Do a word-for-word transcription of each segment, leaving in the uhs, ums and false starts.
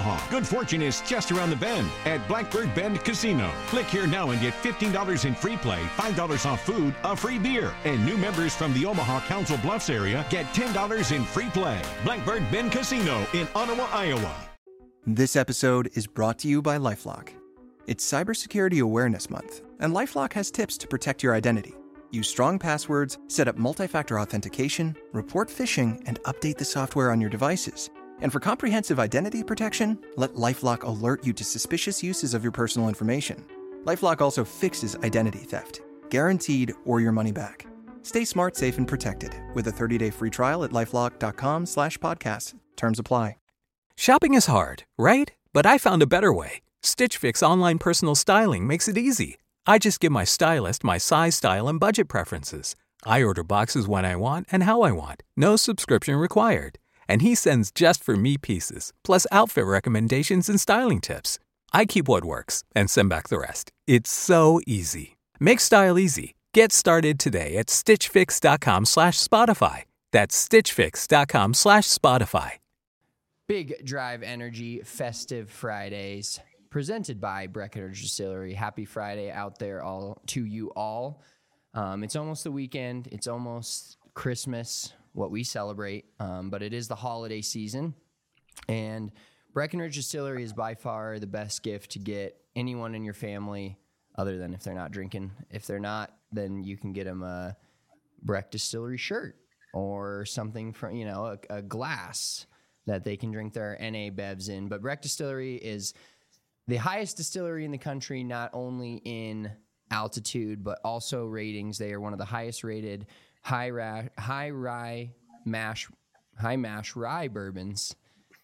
Omaha. Good fortune is just around the bend at Blackbird Bend Casino. Click here now and get fifteen dollars in free play, five dollars off food, a free beer. And new members from the Omaha Council Bluffs area get ten dollars in free play. Blackbird Bend Casino in Ottawa, Iowa. This episode is brought to you by LifeLock. It's Cybersecurity Awareness Month, and LifeLock has tips to protect your identity. Use strong passwords, set up multi-factor authentication, report phishing, and update the software on your devices. And for comprehensive identity protection, let LifeLock alert you to suspicious uses of your personal information. LifeLock also fixes identity theft, guaranteed or your money back. Stay smart, safe, and protected with a thirty-day free trial at LifeLock.com slash podcast. Terms apply. Shopping is hard, right? But I found a better way. Stitch Fix online personal styling makes it easy. I just give my stylist my size, style, and budget preferences. I order boxes when I want and how I want. No subscription required. And he sends just for me pieces, plus outfit recommendations and styling tips. I keep what works and send back the rest. It's so easy. Make style easy. Get started today at stitchfix.com slash Spotify. That's stitchfix.com slash Spotify. Big Drive Energy Festive Fridays, presented by Breckenridge Distillery. Happy Friday out there all to you all. Um, it's almost the weekend. It's almost Christmas, what we celebrate, um, but it is the holiday season. And Breckenridge Distillery is by far the best gift to get anyone in your family, other than if they're not drinking. If they're not, then you can get them a Breck Distillery shirt or something from, you know, a, a glass that they can drink their N A bevs in. But Breck Distillery is the highest distillery in the country, not only in altitude, but also ratings. They are one of the highest rated high ra- high rye mash high mash rye bourbons.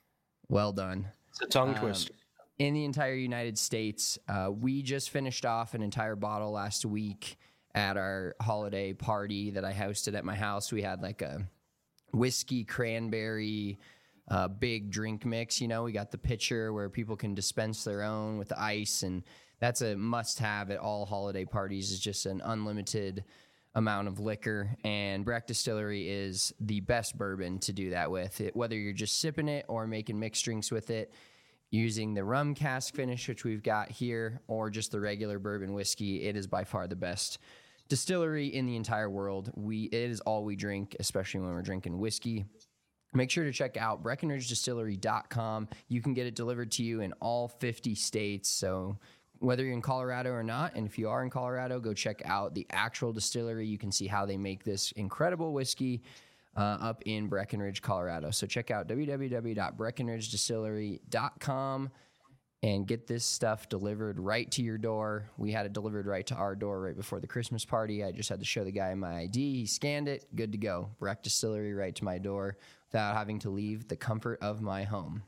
Well done. It's a tongue um, twister. In the entire United States. Uh, we just finished off an entire bottle last week at our holiday party that I hosted at my house. We had like a whiskey cranberry uh, big drink mix. You know, we got the pitcher where people can dispense their own with the ice, and that's a must-have at all holiday parties. Is just an unlimited amount of liquor, and Breck Distillery is the best bourbon to do that with. It, whether you're just sipping it or making mixed drinks with it, using the rum cask finish, which we've got here, or just the regular bourbon whiskey, it is by far the best distillery in the entire world. We it is all we drink, especially when we're drinking whiskey. Make sure to check out Breckenridge Distillery dot com. You can get it delivered to you in all fifty states. So whether you're in Colorado or not, and if you are in Colorado, go check out the actual distillery. You can see how they make this incredible whiskey uh, up in Breckenridge, Colorado. So check out w w w dot breckenridge distillery dot com and get this stuff delivered right to your door. We had it delivered right to our door right before the Christmas party. I just had to show the guy my I D. He scanned it. Good to go. Breck Distillery right to my door without having to leave the comfort of my home.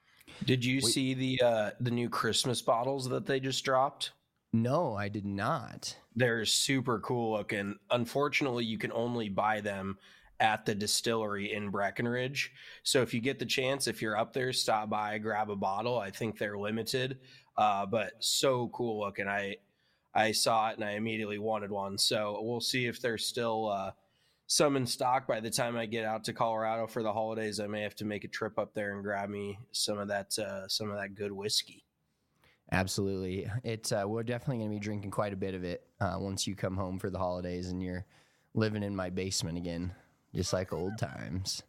Did you Wait. see the uh, the new Christmas bottles that they just dropped? No, I did not. They're super cool looking. Unfortunately, you can only buy them at the distillery in Breckenridge. So if you get the chance, if you're up there, stop by, grab a bottle. I think they're limited, uh, but so cool looking. I I saw it and I immediately wanted one. So we'll see if there's still uh, some in stock by the time I get out to Colorado for the holidays. I may have to make a trip up there and grab me some of that uh, some of that good whiskey. Absolutely. It's uh, we're definitely going to be drinking quite a bit of it uh, once you come home for the holidays and you're living in my basement again. Just like old times.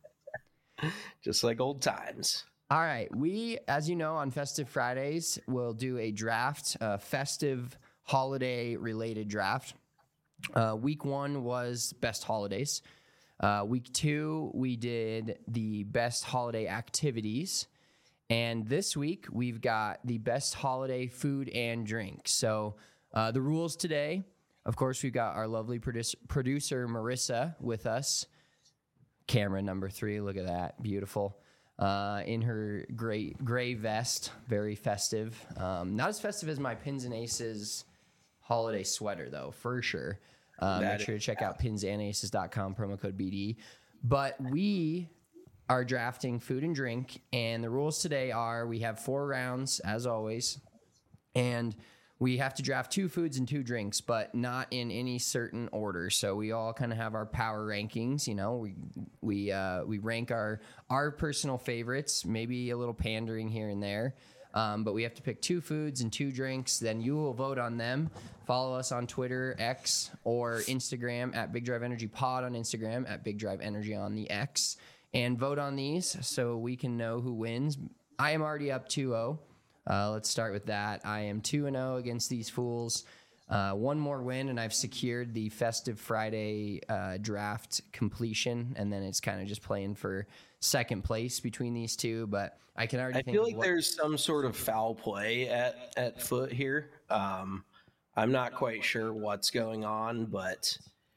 Just like old times. All right. We, as you know, on Festive Fridays, will do a draft, a festive holiday-related draft. Uh, week one was best holidays. Uh, week two, we did the best holiday activities. And this week, we've got the best holiday food and drink. So uh, the rules today, of course, we've got our lovely producer, producer Marissa with us. Camera number three, look at that, beautiful. Uh, in her gray gray vest, very festive. Um, not as festive as my Pins and Aces holiday sweater, though, for sure. Uh, make sure to check out pins and aces dot com, promo code B D. But we are drafting food and drink, and the rules today are we have four rounds, as always, and we have to draft two foods and two drinks, but not in any certain order. So we all kind of have our power rankings. You know, we we uh, we rank our our personal favorites. Maybe a little pandering here and there, um, but we have to pick two foods and two drinks. Then you will vote on them. Follow us on Twitter, X, or Instagram at Big Drive Energy Pod on Instagram, at Big Drive Energy on the X, and vote on these so we can know who wins. I am already up two oh. Uh, let's start with that. I am two and oh against these fools. Uh, one more win, and I've secured the Festive Friday uh, draft completion, and then it's kind of just playing for second place between these two. But I can already I think feel of like what- there's some sort of foul play at, at foot here. Um, I'm not quite sure what's going on, but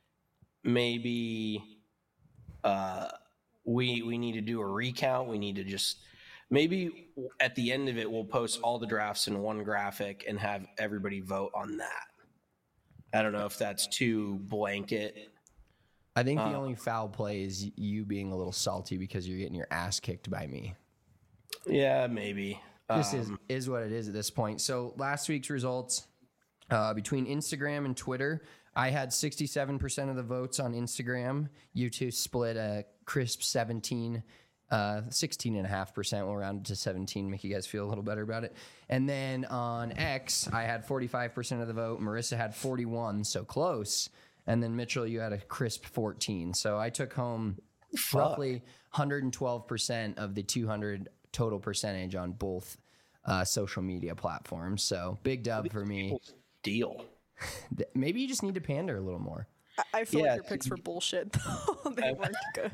maybe uh, we we need to do a recount. We need to just... Maybe at the end of it, we'll post all the drafts in one graphic and have everybody vote on that. I don't know if that's too blanket. I think the uh, only foul play is you being a little salty because you're getting your ass kicked by me. Yeah, maybe. This is Um, is what it is at this point. So last week's results, uh, between Instagram and Twitter, I had sixty-seven percent of the votes on Instagram. You two split a crisp seventeen, uh, sixteen and a half percent. We'll round it to seventeen, make you guys feel a little better about it. And then on X, I had forty-five percent of the vote. Marissa had forty-one, so close. And then Mitchell, you had a crisp fourteen. So I took home roughly one hundred twelve percent of the two hundred total percentage on both uh, social media platforms. So big dub for me. Deal. Maybe you just need to pander a little more. I, I feel Yeah, like your picks were bullshit, though. They weren't good.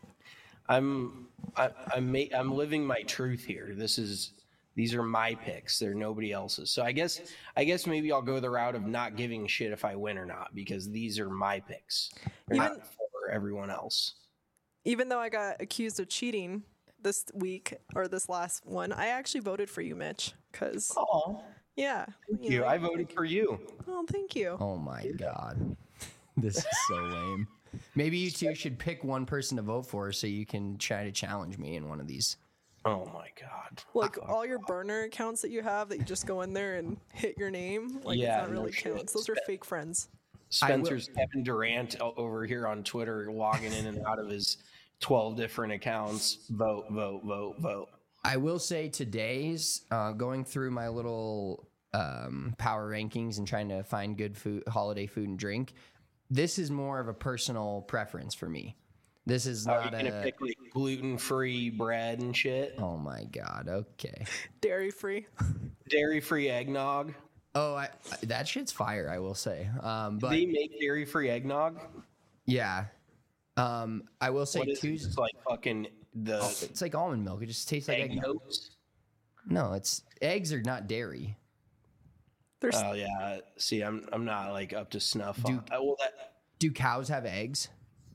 I'm I, I'm ma- I'm living my truth here. This is these are my picks. They're nobody else's. So I guess I guess maybe I'll go the route of not giving a shit if I win or not, because these are my picks. They're Even- not for everyone else. Even though I got accused of cheating this week or this last one, I actually voted for you, Mitch. Because, Oh, yeah. thank you. know, I voted for you. Oh, thank you. Oh my God. This is so lame. Maybe you two should pick one person to vote for so you can try to challenge me in one of these. Oh my God. Like all your burner accounts that you have that you just go in there and hit your name, like Yeah, it's not no really shit. counts. Those are fake friends. Spencer's Kevin Durant o- over here on Twitter, logging in and out of his twelve different accounts. Vote, vote, vote, vote. I will say today's uh, going through my little um, power rankings and trying to find good food, holiday food and drink. This is more of a personal preference for me. This is Are you not gonna a. pick like gluten-free bread and shit? Oh my God. Okay. Dairy free. Dairy-free eggnog? Oh, I, I- that shit's fire. I will say. Um, but They make dairy-free eggnog? yeah, um, I will say What is it? Tuesday. It's like fucking the It's like almond milk. It just tastes like egg egg. yolks? No, it's eggs are not dairy. There's Oh yeah. See, I'm I'm not like up to snuff. Do- on, uh, well, that Do cows have eggs?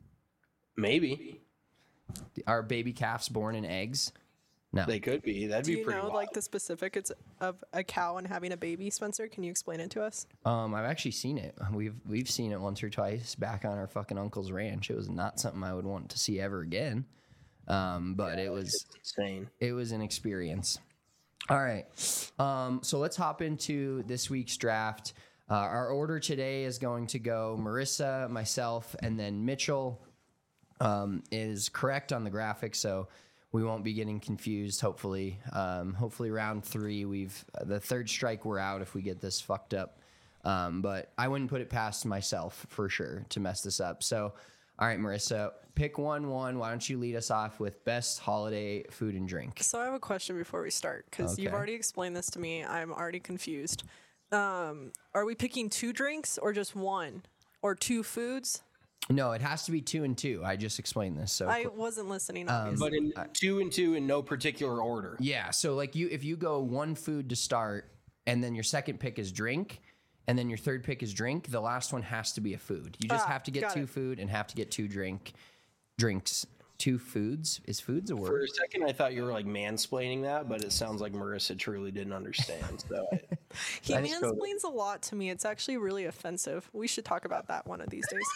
maybe Are baby calves born in eggs? No. they could be. That'd Do be you pretty know wild. like the specifics of a cow and having a baby, Spencer? Can you explain it to us? Um, I've actually seen it. We've we've seen it once or twice back on our fucking uncle's ranch. It was not something I would want to see ever again. Um, but it was It's insane. it was an experience. All right. Um, so let's hop into this week's draft. Uh, our order today is going to go Marissa, myself, and then Mitchell um, is correct on the graphic, so we won't be getting confused. Hopefully, um, hopefully round three, we've the third strike we're out if we get this fucked up. Um, but I wouldn't put it past myself for sure to mess this up. So, all right, Marissa, pick one. One. Why don't you lead us off with best holiday food and drink? So I have a question before we start because you've Okay. already explained this to me. I'm already confused. Um, are we picking two drinks or just one or two foods? No, it has to be two and two. I just explained this. So I wasn't listening, Um, obviously. But in two and two in no particular order. yeah, so like you, if you go one food to start, and then your second pick is drink, and then your third pick is drink, the last one has to be a food. You just Ah, have to get got two it. food and have to get two drink drinks. Two foods is foods a For word? a second, I thought you were like mansplaining that, but it sounds like Marissa truly didn't understand. So I, he that's totally- mansplains a lot to me. It's actually really offensive. We should talk about that one of these days.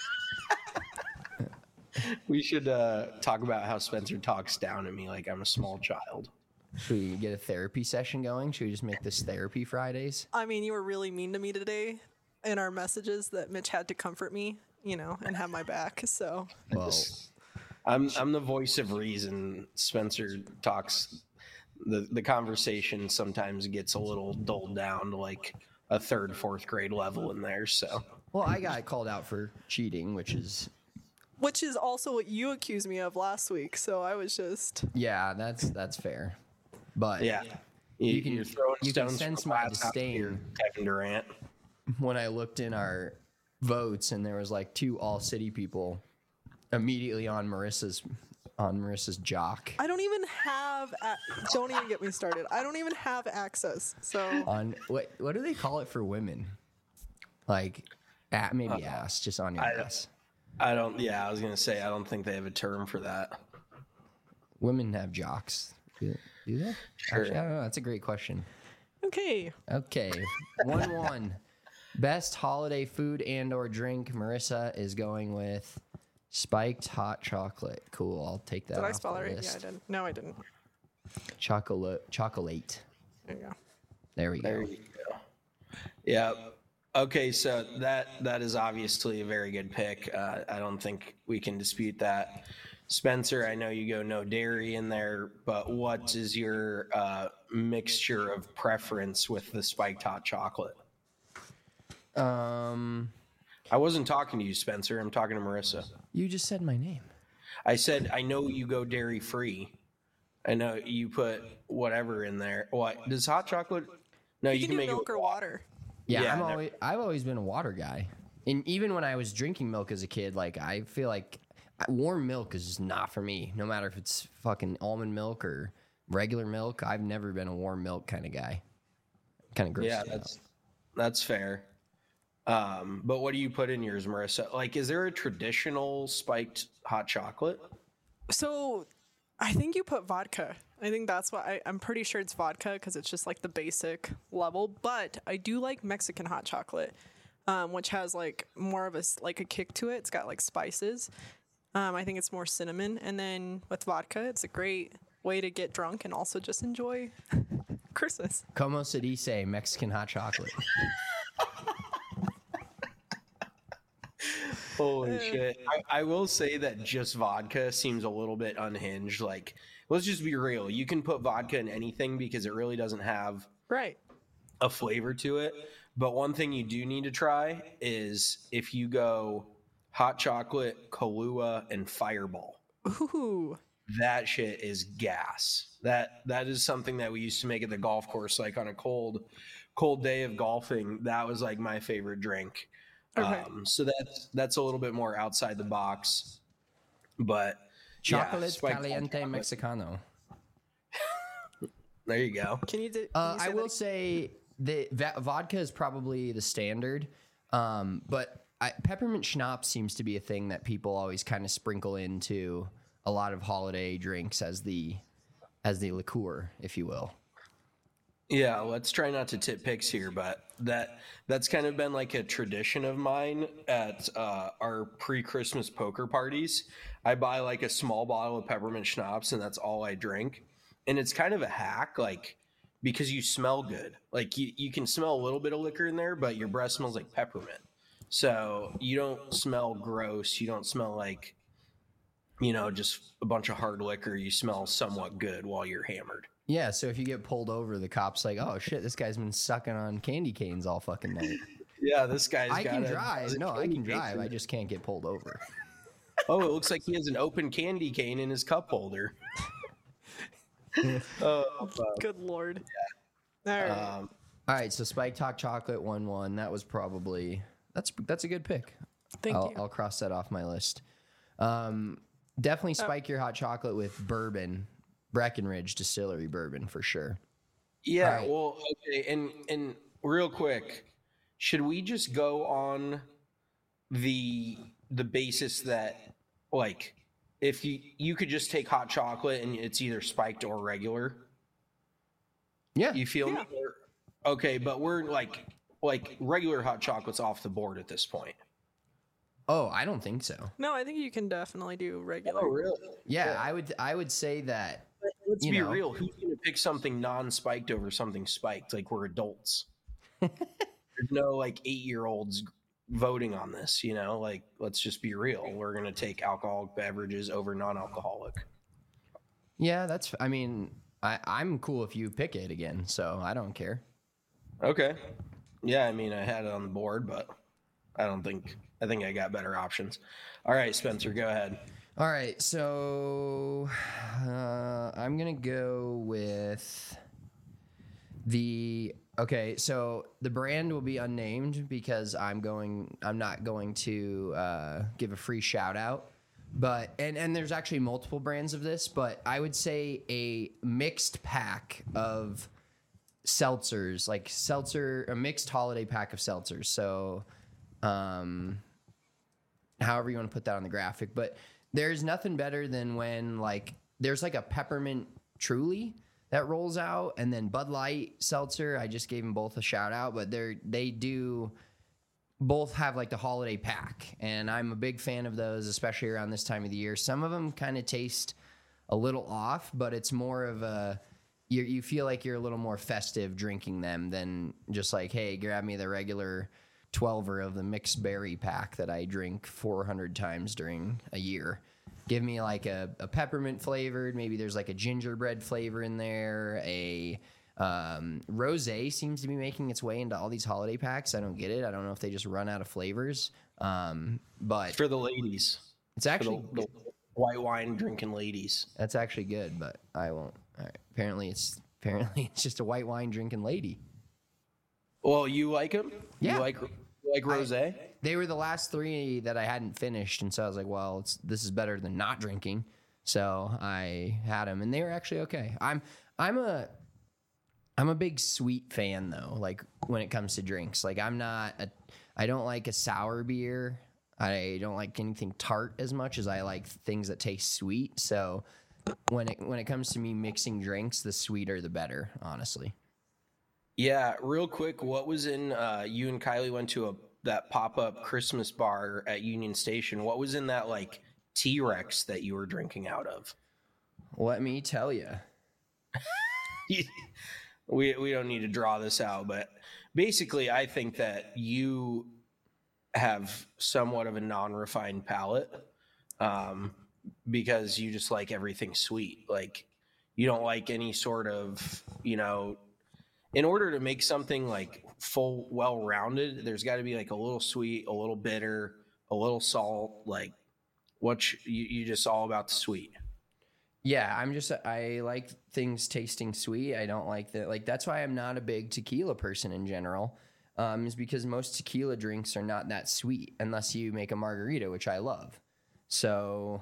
we should uh, talk about how Spencer talks down to me like I'm a small child. Should we get a therapy session going? Should we just make this therapy Fridays? I mean, you were really mean to me today in our messages that Mitch had to comfort me, you know, and have my back. So, Well, I'm I'm the voice of reason. Spencer talks. The the conversation sometimes gets a little dulled down to like a third, fourth grade level in there. So well, I got called out for cheating, which is which is also what you accused me of last week. So I was just, yeah, that's that's fair. But yeah, you, You can- you're throwing you can stones sense from my glass house here, disdain. Kevin Durant. when I looked in our votes and there was like two all city people immediately on Marissa's on Marissa's jock. I don't even have, a- don't even get me started. I don't even have access. So On what what do they call it for women? Like at, maybe ass, just on your I don't- ass. I don't. Yeah, I was gonna say I don't think they have a term for that. Women have jocks. Do, do they? Sure. Actually, I don't know. That's a great question. okay. Okay, one one. Best holiday food and or drink. Marissa is going with spiked hot chocolate. Cool. I'll take that. Did I off spell the it right? Yeah, list. I did. No, I didn't. Chocolate. Chocolate. There you go. There we There go. you go. Yeah. Okay, so that that is obviously a very good pick. Uh, I don't think we can dispute that. Spencer, I know you go no dairy in there, but what is your uh, mixture of preference with the spiked hot chocolate? Um, I wasn't talking to you, Spencer. I'm talking to Marissa. you just said my name. I said I know you go dairy free. I know you put whatever in there. What does hot chocolate? No, you, You, can can do make milk it or water. Yeah, Yeah, I'm never- always I've always been a water guy, and even when I was drinking milk as a kid, like I feel like warm milk is just not for me. No matter if it's fucking almond milk or regular milk, I've never been a warm milk kind of guy. Kind of gross. Yeah, that's that's fair. Um, but what do you put in yours, Marissa? Like, is there a traditional spiked hot chocolate? So I think you put vodka. I think that's what I, I'm pretty sure it's vodka because it's just like the basic level. But I do like Mexican hot chocolate, um, which has like more of a s- like a kick to it. It's got like spices. Um, I think it's more cinnamon. And then with vodka, it's a great way to get drunk and also just enjoy Christmas. Como se dice Mexican hot chocolate? Holy shit. I, I will say that just vodka seems a little bit unhinged. Like, let's just be real. You can put vodka in anything because it really doesn't have Right. a flavor to it. But one thing you do need to try is if you go hot chocolate, Kahlua, and Fireball. Ooh. That shit is gas. That that is something that we used to make at the golf course, like on a cold, cold day of golfing. That was like my favorite drink. Okay. Um, so that's that's a little bit more outside the box, but yeah, Chocolate spiked hot caliente chocolate. Mexicano. There you go. Can you, do, can Uh, you say I that will again? say the va- vodka is probably the standard, um, but I, peppermint schnapps seems to be a thing that people always kind of sprinkle into a lot of holiday drinks as the as the liqueur, if you will. Yeah, let's try not to tip picks here, but that that's kind of been like a tradition of mine at uh, our pre-Christmas poker parties. I buy like a small bottle of peppermint schnapps, and that's all I drink. And it's kind of a hack, like because you smell good. Like you, you can smell a little bit of liquor in there, but your breath smells like peppermint. So you don't smell gross. You don't smell like, you know, just a bunch of hard liquor. You smell somewhat good while you're hammered. Yeah, so if you get pulled over, the cop's like, "Oh shit, this guy's been sucking on candy canes all fucking night." Yeah, this guy's I got can a- drive. a No, I candy can cane. drive. I just can't get pulled over. Oh, it looks like he has an open candy cane in his cup holder. oh, fuck. Good Lord. All right. Um, All right, so spiked hot chocolate one one. That was probably that's that's a good pick. Thank I'll, you. I'll cross that off my list. Um, definitely spike your hot chocolate with bourbon, Breckenridge Distillery bourbon for sure. yeah, All right. well, okay, and and real quick, should we just go on the the basis that like if you you could just take hot chocolate and it's either spiked or regular? Yeah, You feel me? Or- okay, but we're like like regular hot chocolate's off the board at this point. Oh, I don't think so. No, I think you can definitely do regular. Oh, really? Yeah, I would I would say that let's you be know. real. Who's going to pick something non-spiked over something spiked? Like, we're adults. There's no like eight-year-olds voting on this, you know? Like, let's just be real. We're going to take alcoholic beverages over non-alcoholic. Yeah, that's. I mean, I, I'm cool if you pick it again, so I don't care. Okay. Yeah, I mean, I had it on the board, but I don't think. I think I got better options. All right, Spencer, go ahead. All right, so uh, I'm gonna go with the. Okay, so the brand will be unnamed because I'm going. I'm not going to uh, give a free shout out. But and and there's actually multiple brands of this, but I would say a mixed pack of seltzers, like seltzer, a mixed holiday pack of seltzers. So, um, however you want to put that on the graphic, but there's nothing better than when like there's like a peppermint Truly that rolls out, and then Bud Light seltzer. I just gave them both a shout out, but they're they do both have like the holiday pack, and I'm a big fan of those, especially around this time of the year. Some of them kind of taste a little off, but it's more of a you you feel like you're a little more festive drinking them than just like, hey, grab me the regular twelver of the mixed berry pack that I drink four hundred times during a year. Give me like a, a peppermint flavored, maybe there's like a gingerbread flavor in there. A um, rosé seems to be making its way into all these holiday packs. I don't get it. I don't know if they just run out of flavors. Um, but For the ladies. it's actually For the, the white wine drinking ladies. that's actually good, but I won't. All right. Apparently it's apparently it's just a white wine drinking lady. Well, you like them? Yeah. You like, you like rosé? They were the last three that I hadn't finished, and so I was like, well, it's, this is better than not drinking. So I had them, and they were actually okay. I'm I'm a I'm a big sweet fan though. Like when it comes to drinks, like I'm not a I don't like a sour beer. I don't like anything tart as much as I like things that taste sweet. So when it when it comes to me mixing drinks, the sweeter the better, honestly. Yeah, real quick, what was in uh, you and Kylie went to a that pop-up Christmas bar at Union Station. What was in that like T-Rex that you were drinking out of? Let me tell you. we we don't need to draw this out, but basically I think that you have somewhat of a non-refined palate um, because you just like everything sweet. Like you don't like any sort of, you know, in order to make something like full, well-rounded, there's got to be like a little sweet, a little bitter, a little salt. Like what you, you just all about the sweet. Yeah, I'm just I like things tasting sweet. I don't like that. Like that's why I'm not a big tequila person in general. Um, is because most tequila drinks are not that sweet unless you make a margarita, which I love. So,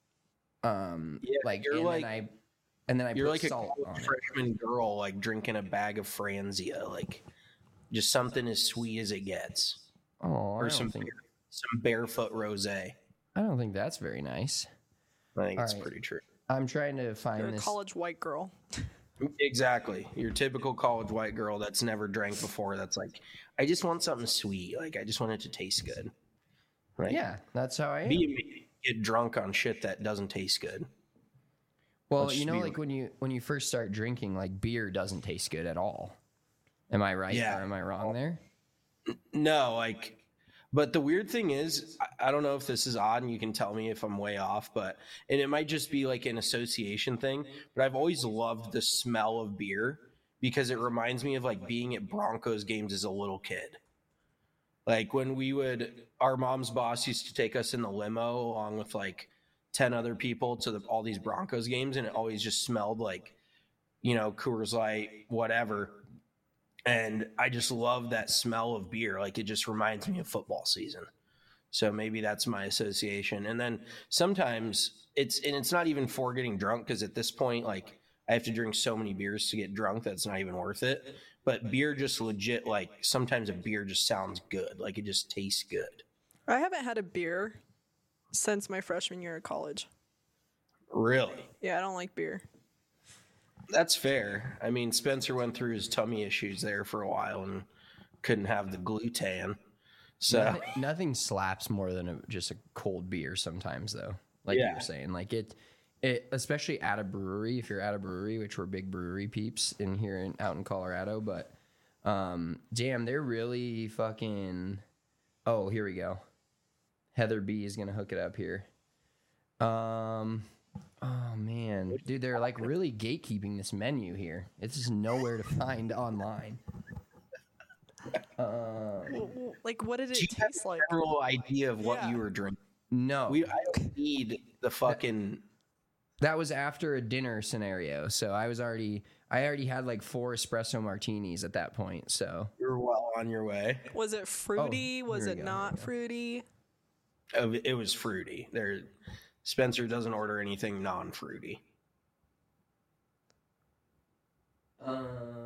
um, Yeah, like you're and like- then I and then I You're put like a salt on it. freshman girl, like drinking a bag of Franzia, like just something as sweet as it gets, Oh, I or don't some think some barefoot rosé. I don't think that's very nice. I think All it's right. pretty true. I'm trying to find You're a this. college white girl. Exactly, your typical college white girl that's never drank before. That's like, I just want something sweet. Like I just want it to taste good. Right? Yeah, that's how I am. Be me, get drunk on shit that doesn't taste good. Well, Let's you just know, be like when you when you first start drinking, like beer doesn't taste good at all. Am I right Yeah. or am I wrong there? No, like, but the weird thing is, I, I don't know if this is odd, and you can tell me if I'm way off, but, and it might just be like an association thing, but I've always loved the smell of beer because it reminds me of like being at Broncos games as a little kid. Like when we would, our mom's boss used to take us in the limo along with like ten other people to the, all these Broncos games, and it always just smelled like, you know, Coors Light, whatever. And I just love that smell of beer. Like it just reminds me of football season. So maybe that's my association. And then sometimes it's, and it's not even for getting drunk, because at this point, like I have to drink so many beers to get drunk that's not even worth it. But beer just legit, like sometimes a beer just sounds good. Like it just tastes good. I haven't had a beer since my freshman year of college. Really? Yeah, I don't like beer. That's fair. I mean, Spencer went through his tummy issues there for a while and couldn't have the gluten. So Nothing, nothing slaps more than a, just a cold beer sometimes, though. Like you Yeah. were saying, like it, It, especially at a brewery, if you're at a brewery, which we're big brewery peeps in here in, out in Colorado. But um, damn, they're really fucking. Oh, here we go. Heather B is gonna hook it up here. Um, oh man, dude, they're like really gatekeeping this menu here. It's just nowhere to find online. Uh, Like, what did it Do you have taste a like? general idea of what Yeah. you were drinking? no, We I don't need the fucking. that was after a dinner scenario, so I was already, I already had like four espresso martinis at that point. So You're well on your way. Was it fruity? Oh, was here it we go, not here we go. fruity? Oh, it was fruity. There, Spencer doesn't order anything non-fruity. um,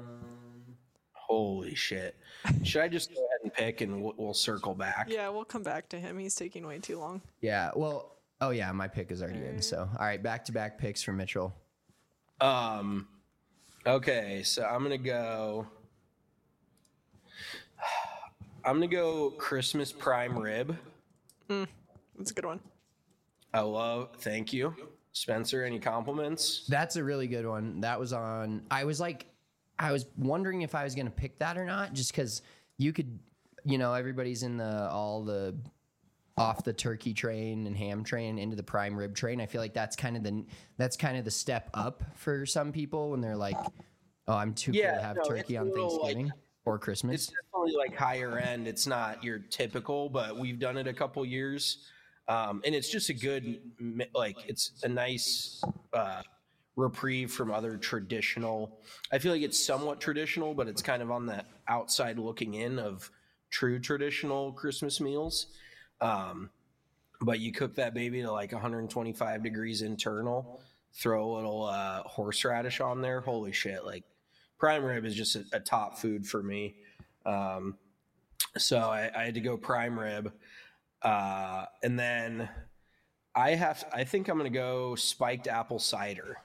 Holy shit! Should I just go ahead and pick, and we'll, we'll circle back? Yeah, we'll come back to him. He's taking way too long. yeah, well, oh yeah, my pick is already in. So all right, back to back picks for Mitchell. Um. Okay, so I'm gonna go. I'm gonna go Christmas prime rib. That's a good one. I love. Thank you, Spencer. Any compliments? That's a really good one. That was on. I was like, I was wondering if I was going to pick that or not, just because you could, you know, everybody's in the all the off the turkey train and ham train into the prime rib train. I feel like that's kind of the that's kind of the step up for some people when they're like, oh, I'm too Yeah, cool to have no, turkey it's a on little, like- Thanksgiving or Christmas. It's definitely like higher end. It's not your typical, but we've done it a couple years, um, and it's just a good, mi- like it's a nice uh, reprieve from other traditional. I feel like it's somewhat traditional, but it's kind of on the outside looking in of true traditional Christmas meals. Um, but you cook that baby to like one hundred twenty-five degrees internal, throw a little uh, horseradish on there. Holy shit! Like prime rib is just a, a top food for me. Um, so I, I had to go prime rib, uh, and then I have. I think I'm gonna go spiked apple cider.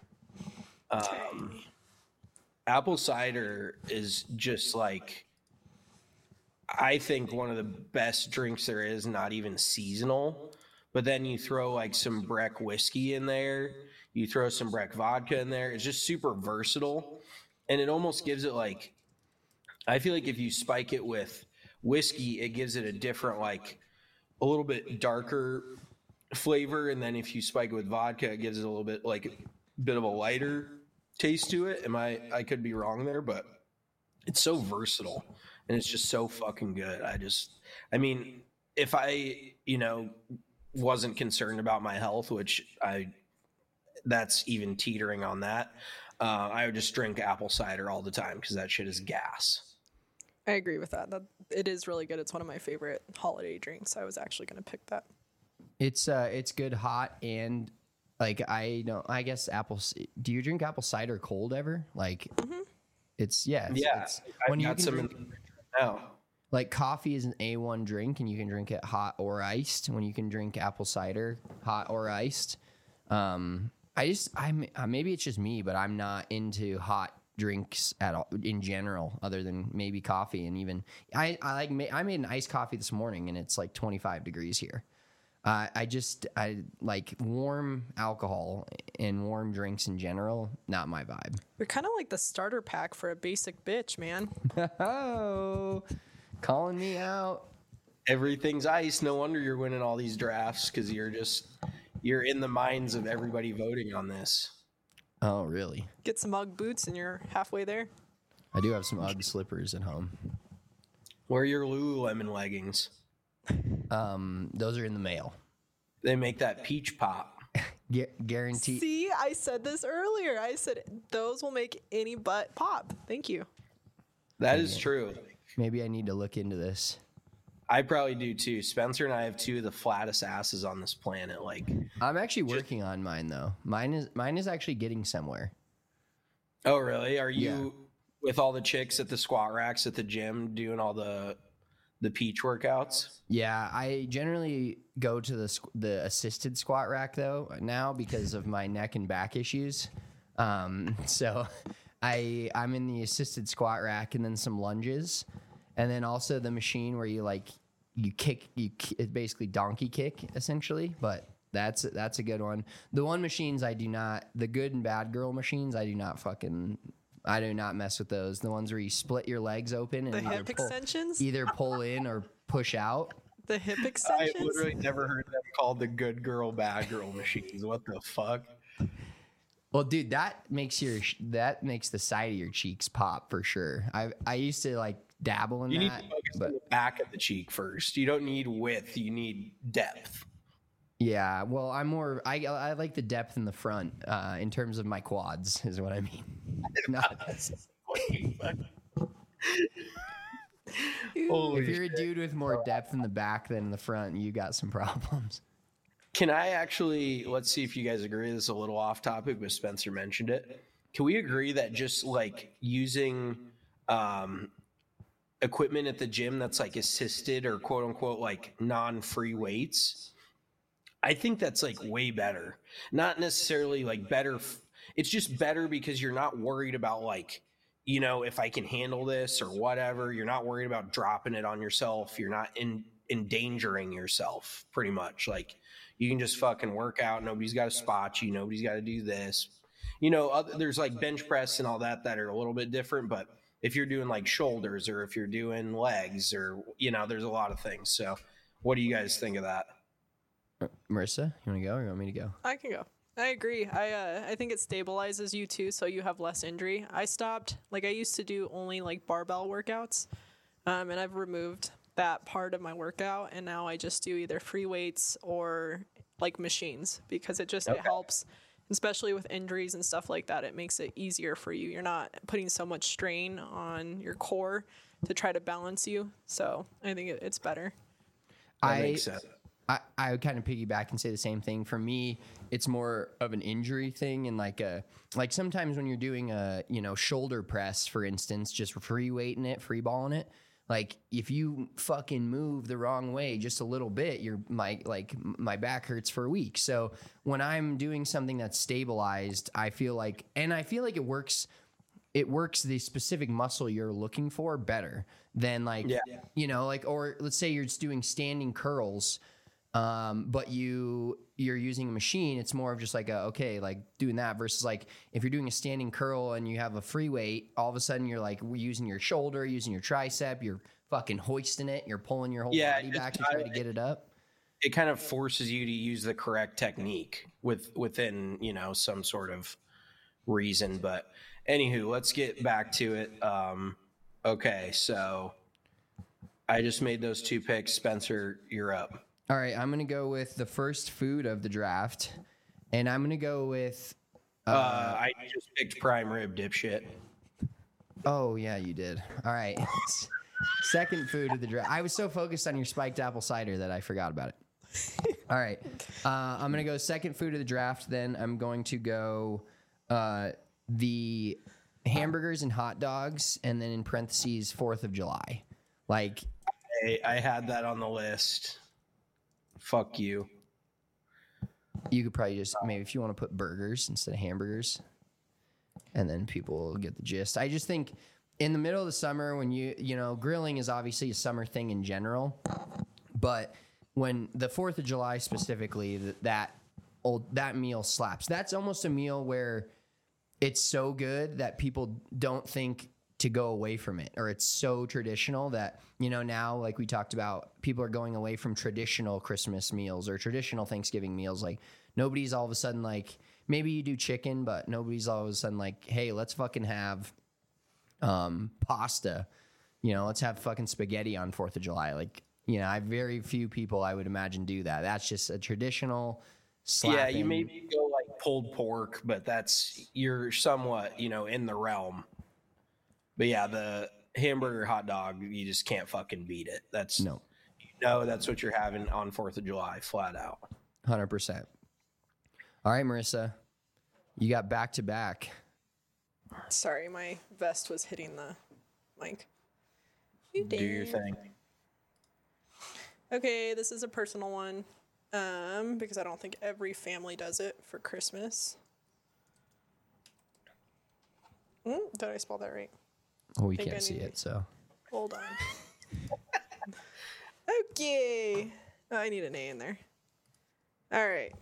Um, apple cider is just like, I think one of the best drinks there is, not even seasonal. But then you throw like some Breck whiskey in there, you throw some Breck vodka in there. It's just super versatile, and it almost gives it like, I feel like if you spike it with whiskey, it gives it a different, like a little bit darker flavor, and then if you spike it with vodka, it gives it a little bit like a bit of a lighter taste to it. Am I? I could be wrong there, but it's so versatile and it's just so fucking good. I just, I mean, if I, you know, wasn't concerned about my health, which I, that's even teetering on that, uh, I would just drink apple cider all the time because that shit is gas. I agree with that. That it is really good. It's one of my favorite holiday drinks. I was actually going to pick that. It's uh, it's good hot and like I don't. I guess apple. c- Do you drink apple cider cold ever? Like, it's yeah, it's, Yeah, It's, I've you got can some drink, in the fridge right now. like coffee is an A one drink, and you can drink it hot or iced. When you can drink apple cider hot or iced. Um, I just I'm uh, maybe it's just me, but I'm not into hot drinks at all in general, other than maybe coffee. And even I I like ma- I made an iced coffee this morning, and it's like twenty-five degrees here. Uh, I just I like warm alcohol and warm drinks in general. Not my vibe. You're kind of like the starter pack for a basic bitch, man. Oh, calling me out. Everything's ice. No wonder you're winning all these drafts because you're just you're in the minds of everybody voting on this. Oh, really? Get some Ugg boots and you're halfway there. I do have some Ugg slippers at home. Where are your Lululemon leggings? Um, those are in the mail. They make that peach pop. Gu- guarantee. See, I said this earlier. I said those will make any butt pop. Thank you. That is true. Maybe I need to look into this. I probably do too. Spencer and I have two of the flattest asses on this planet. Like, I'm actually working on mine though. Mine is mine is actually getting somewhere. oh really? Are you Yeah. with all the chicks at the squat racks at the gym doing all the the peach workouts? Yeah, I generally go to the squ- the assisted squat rack though now because of my neck and back issues. Um, so I I'm in the assisted squat rack and then some lunges, and then also the machine where you like you kick you ki- it's basically donkey kick essentially, but That's that's a good one. The one machines I do not, the good and bad girl machines, I do not fucking, I do not mess with those. The ones where you split your legs open and The either hip pull, extensions? either pull in or push out. The hip I extensions? literally never heard them called the good girl, bad girl machines. What the fuck? Well, dude, that makes your that makes the side of your cheeks pop for sure. I I used to like dabble in You need that, to focus but on the back of the cheek first. You don't need width. You need depth. yeah. Well, I'm more. I I like the depth in the front uh, in terms of my quads is what I mean. Not, Holy if you're shit. a dude with more depth in the back than in the front, you got some problems. Can I actually, let's see if you guys agree. This is a little off topic, but Spencer mentioned it. Can we agree that just like using um, equipment at the gym that's like assisted or quote unquote like non-free weights, I think that's like way better. Not necessarily like better. F- it's just better because you're not worried about like, you know, if I can handle this or whatever. You're not worried about dropping it on yourself. You're not in endangering yourself pretty much. Like, you can just fucking work out. Nobody's got to spot you. Nobody's got to do this. You know, other, there's like bench press and all that that are a little bit different. But if you're doing like shoulders or if you're doing legs or, you know, there's a lot of things. So what do you guys think of that? Marissa, you want to go or you want me to go? I can go. I agree. I uh, I think it stabilizes you too, so you have less injury. I stopped, like I used to do only like barbell workouts, um, and I've removed that part of my workout, and now I just do either free weights or like machines because it just Okay. it helps, especially with injuries and stuff like that. It makes it easier for you. You're not putting so much strain on your core to try to balance you. So I think it, it's better. That I makes sense. I, I would kind of piggyback and say the same thing. For me, it's more of an injury thing, and like a like sometimes when you're doing a you know shoulder press, for instance, just free weighting it, free balling it. Like if you fucking move the wrong way just a little bit, your my like my back hurts for a week. So when I'm doing something that's stabilized, I feel like, and I feel like it works. It works the specific muscle you're looking for better than like Yeah. you know like or let's say you're just doing standing curls. Um, but you you're using a machine, it's more of just like a, okay, like doing that versus like if you're doing a standing curl and you have a free weight, all of a sudden you're like using your shoulder, using your tricep, you're fucking hoisting it, you're pulling your whole Yeah, body it's- back to try to get it up. It kind of forces you to use the correct technique with within, you know, some sort of reason. But anywho, let's get back to it. Um, okay, so I just made those two picks. Spencer, you're up. All right, I'm gonna go with the first food of the draft, and I'm gonna go with. Uh, I just picked prime rib, dipshit. Oh yeah, you did. All right, second food of the draft. I was so focused on your spiked apple cider that I forgot about it. All right, uh, I'm gonna go second food of the draft. Then I'm going to go uh, the hamburgers and hot dogs, and then in parentheses Fourth of July. Like, I, I had that on the list. Fuck you. you could probably just maybe if you want to put burgers instead of hamburgers, and then people will get the gist. I just think in the middle of the summer when you you know grilling is obviously a summer thing in general, but when the Fourth of July specifically, that that old that meal slaps. That's almost a meal where it's so good that people don't think to go away from it, or it's so traditional that, you know, now, like we talked about, people are going away from traditional Christmas meals or traditional Thanksgiving meals. Like nobody's all of a sudden like, maybe you do chicken, but nobody's all of a sudden like, hey, let's fucking have um, pasta, you know, let's have fucking spaghetti on fourth of July. Like, you know, I very few people I would imagine do that. That's just a traditional slapping. Yeah, you maybe go like pulled pork, but that's, you're somewhat, you know, in the realm. But yeah, the hamburger hot dog, you just can't fucking beat it. That's No. You know, that's what you're having on fourth of July, flat out. one hundred percent. All right, Marissa, you got back to back. Sorry, my vest was hitting the mic. You Do your did. thing. Okay, this is a personal one, um, because I don't think every family does it for Christmas. Mm, did I spell that right? Oh, we Think I can't see need- it, so. Hold on. Okay. Oh, I need an A in there. All right.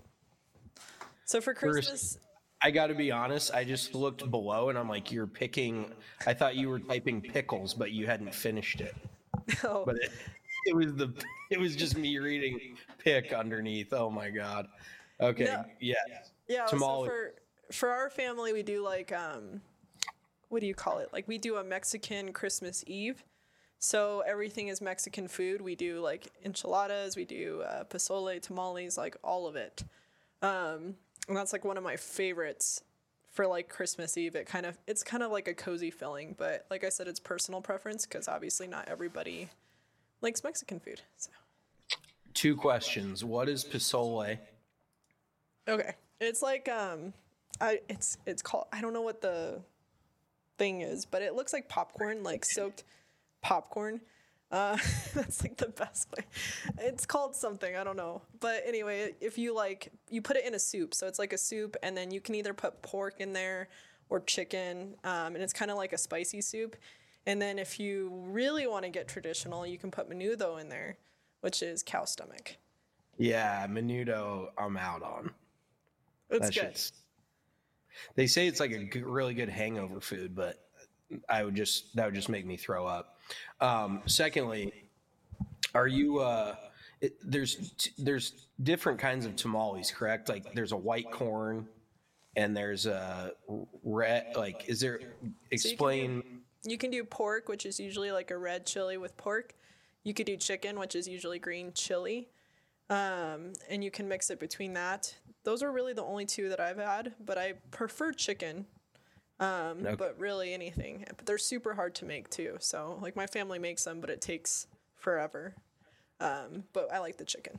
So for Christmas, First, I got to be honest. I just looked below and I'm like, you're picking. I thought you were typing pickles, but you hadn't finished it. oh, But it, it was the. It was just me reading pick underneath. Oh my god. Okay. No. Yeah. yeah. So Tamale. for for our family, we do like um, what do you call it? Like we do a Mexican Christmas Eve. So everything is Mexican food. We do like enchiladas. We do uh, pozole, tamales, like all of it. Um, and that's like one of my favorites for like Christmas Eve. It kind of it's kind of like a cozy feeling, but like I said, it's personal preference because obviously not everybody likes Mexican food. So. Two questions. What is pozole? Okay, it's like um, I it's it's called I don't know what the thing is, but it looks like popcorn, like soaked popcorn. Uh, that's like the best way. It's called something, I don't know. But anyway, if you like, you put it in a soup. So it's like a soup, and then you can either put pork in there or chicken, um, and it's kind of like a spicy soup. And then if you really want to get traditional, you can put menudo in there, which is cow stomach. Yeah, menudo. I'm out on. It's That good. shit's- They say it's like a g- really good hangover food, but I would just that would just make me throw up. Um, secondly, are you? Uh, it, there's t- there's different kinds of tamales, correct? Like there's a white corn, and there's a red. Like, is there? Explain. You can do pork, which is usually like a red chili with pork. You could do chicken, which is usually green chili. Um, and you can mix it between that. Those are really the only two that I've had, but I prefer chicken. Um, Okay. But really anything. But they're super hard to make too. So like my family makes them, but it takes forever. Um, but I like the chicken.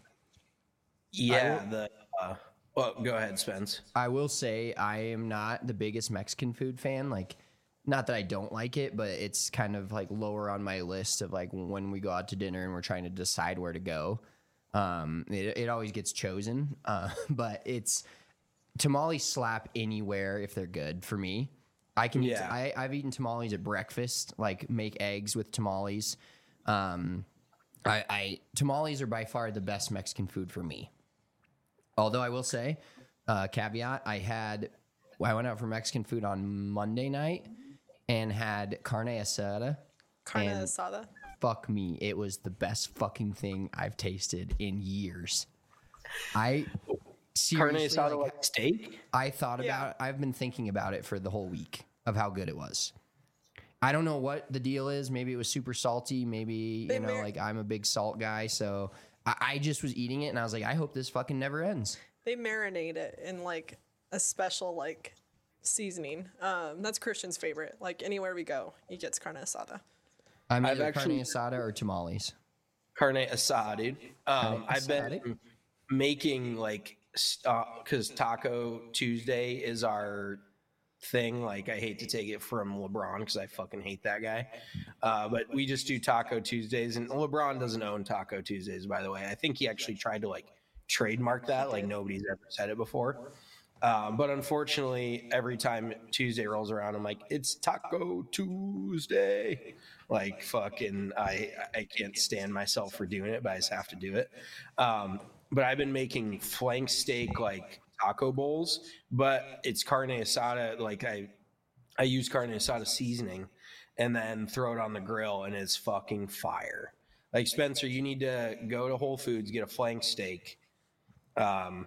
Yeah. The. Uh, well, go ahead, Spence. I will say I am not the biggest Mexican food fan. Like, not that I don't like it, but it's kind of like lower on my list of like when we go out to dinner and we're trying to decide where to go. Um, it, it always gets chosen. Uh, but it's tamales slap anywhere if they're good for me. I can eat, Yeah. I, I've eaten tamales at breakfast, like make eggs with tamales. Um, I, I tamales are by far the best Mexican food for me. Although I will say, uh, caveat, I had I went out for Mexican food on Monday night and had carne asada. Carne and asada. Fuck me, it was the best fucking thing I've tasted in years. I Carne seriously, asada like, like steak. I thought Yeah. about I've been thinking about it for the whole week of how good it was. I don't know what the deal is. Maybe it was super salty. Maybe, They you know, mar- like I'm a big salt guy. So I, I just was eating it and I was like, I hope this fucking never ends. They marinate it in like a special like seasoning. Um, that's Christian's favorite. Like anywhere we go, he gets carne asada. I'm I've either actually- carne asada or tamales. Carne asada, dude. Um, Carne I've been asada? making like because Taco Tuesday is our thing. Like, I hate to take it from LeBron because I fucking hate that guy. Uh, but we just do Taco Tuesdays, and LeBron doesn't own Taco Tuesdays, by the way. I think he actually tried to like trademark that. Like, nobody's ever said it before. Um, but unfortunately, every time Tuesday rolls around, I'm like, it's Taco Tuesday. Like, fucking, I I can't stand myself for doing it, but I just have to do it. Um, but I've been making flank steak like taco bowls, but it's carne asada. Like, I I use carne asada seasoning and then throw it on the grill, and it's fucking fire. Like, Spencer, you need to go to Whole Foods, get a flank steak. Um,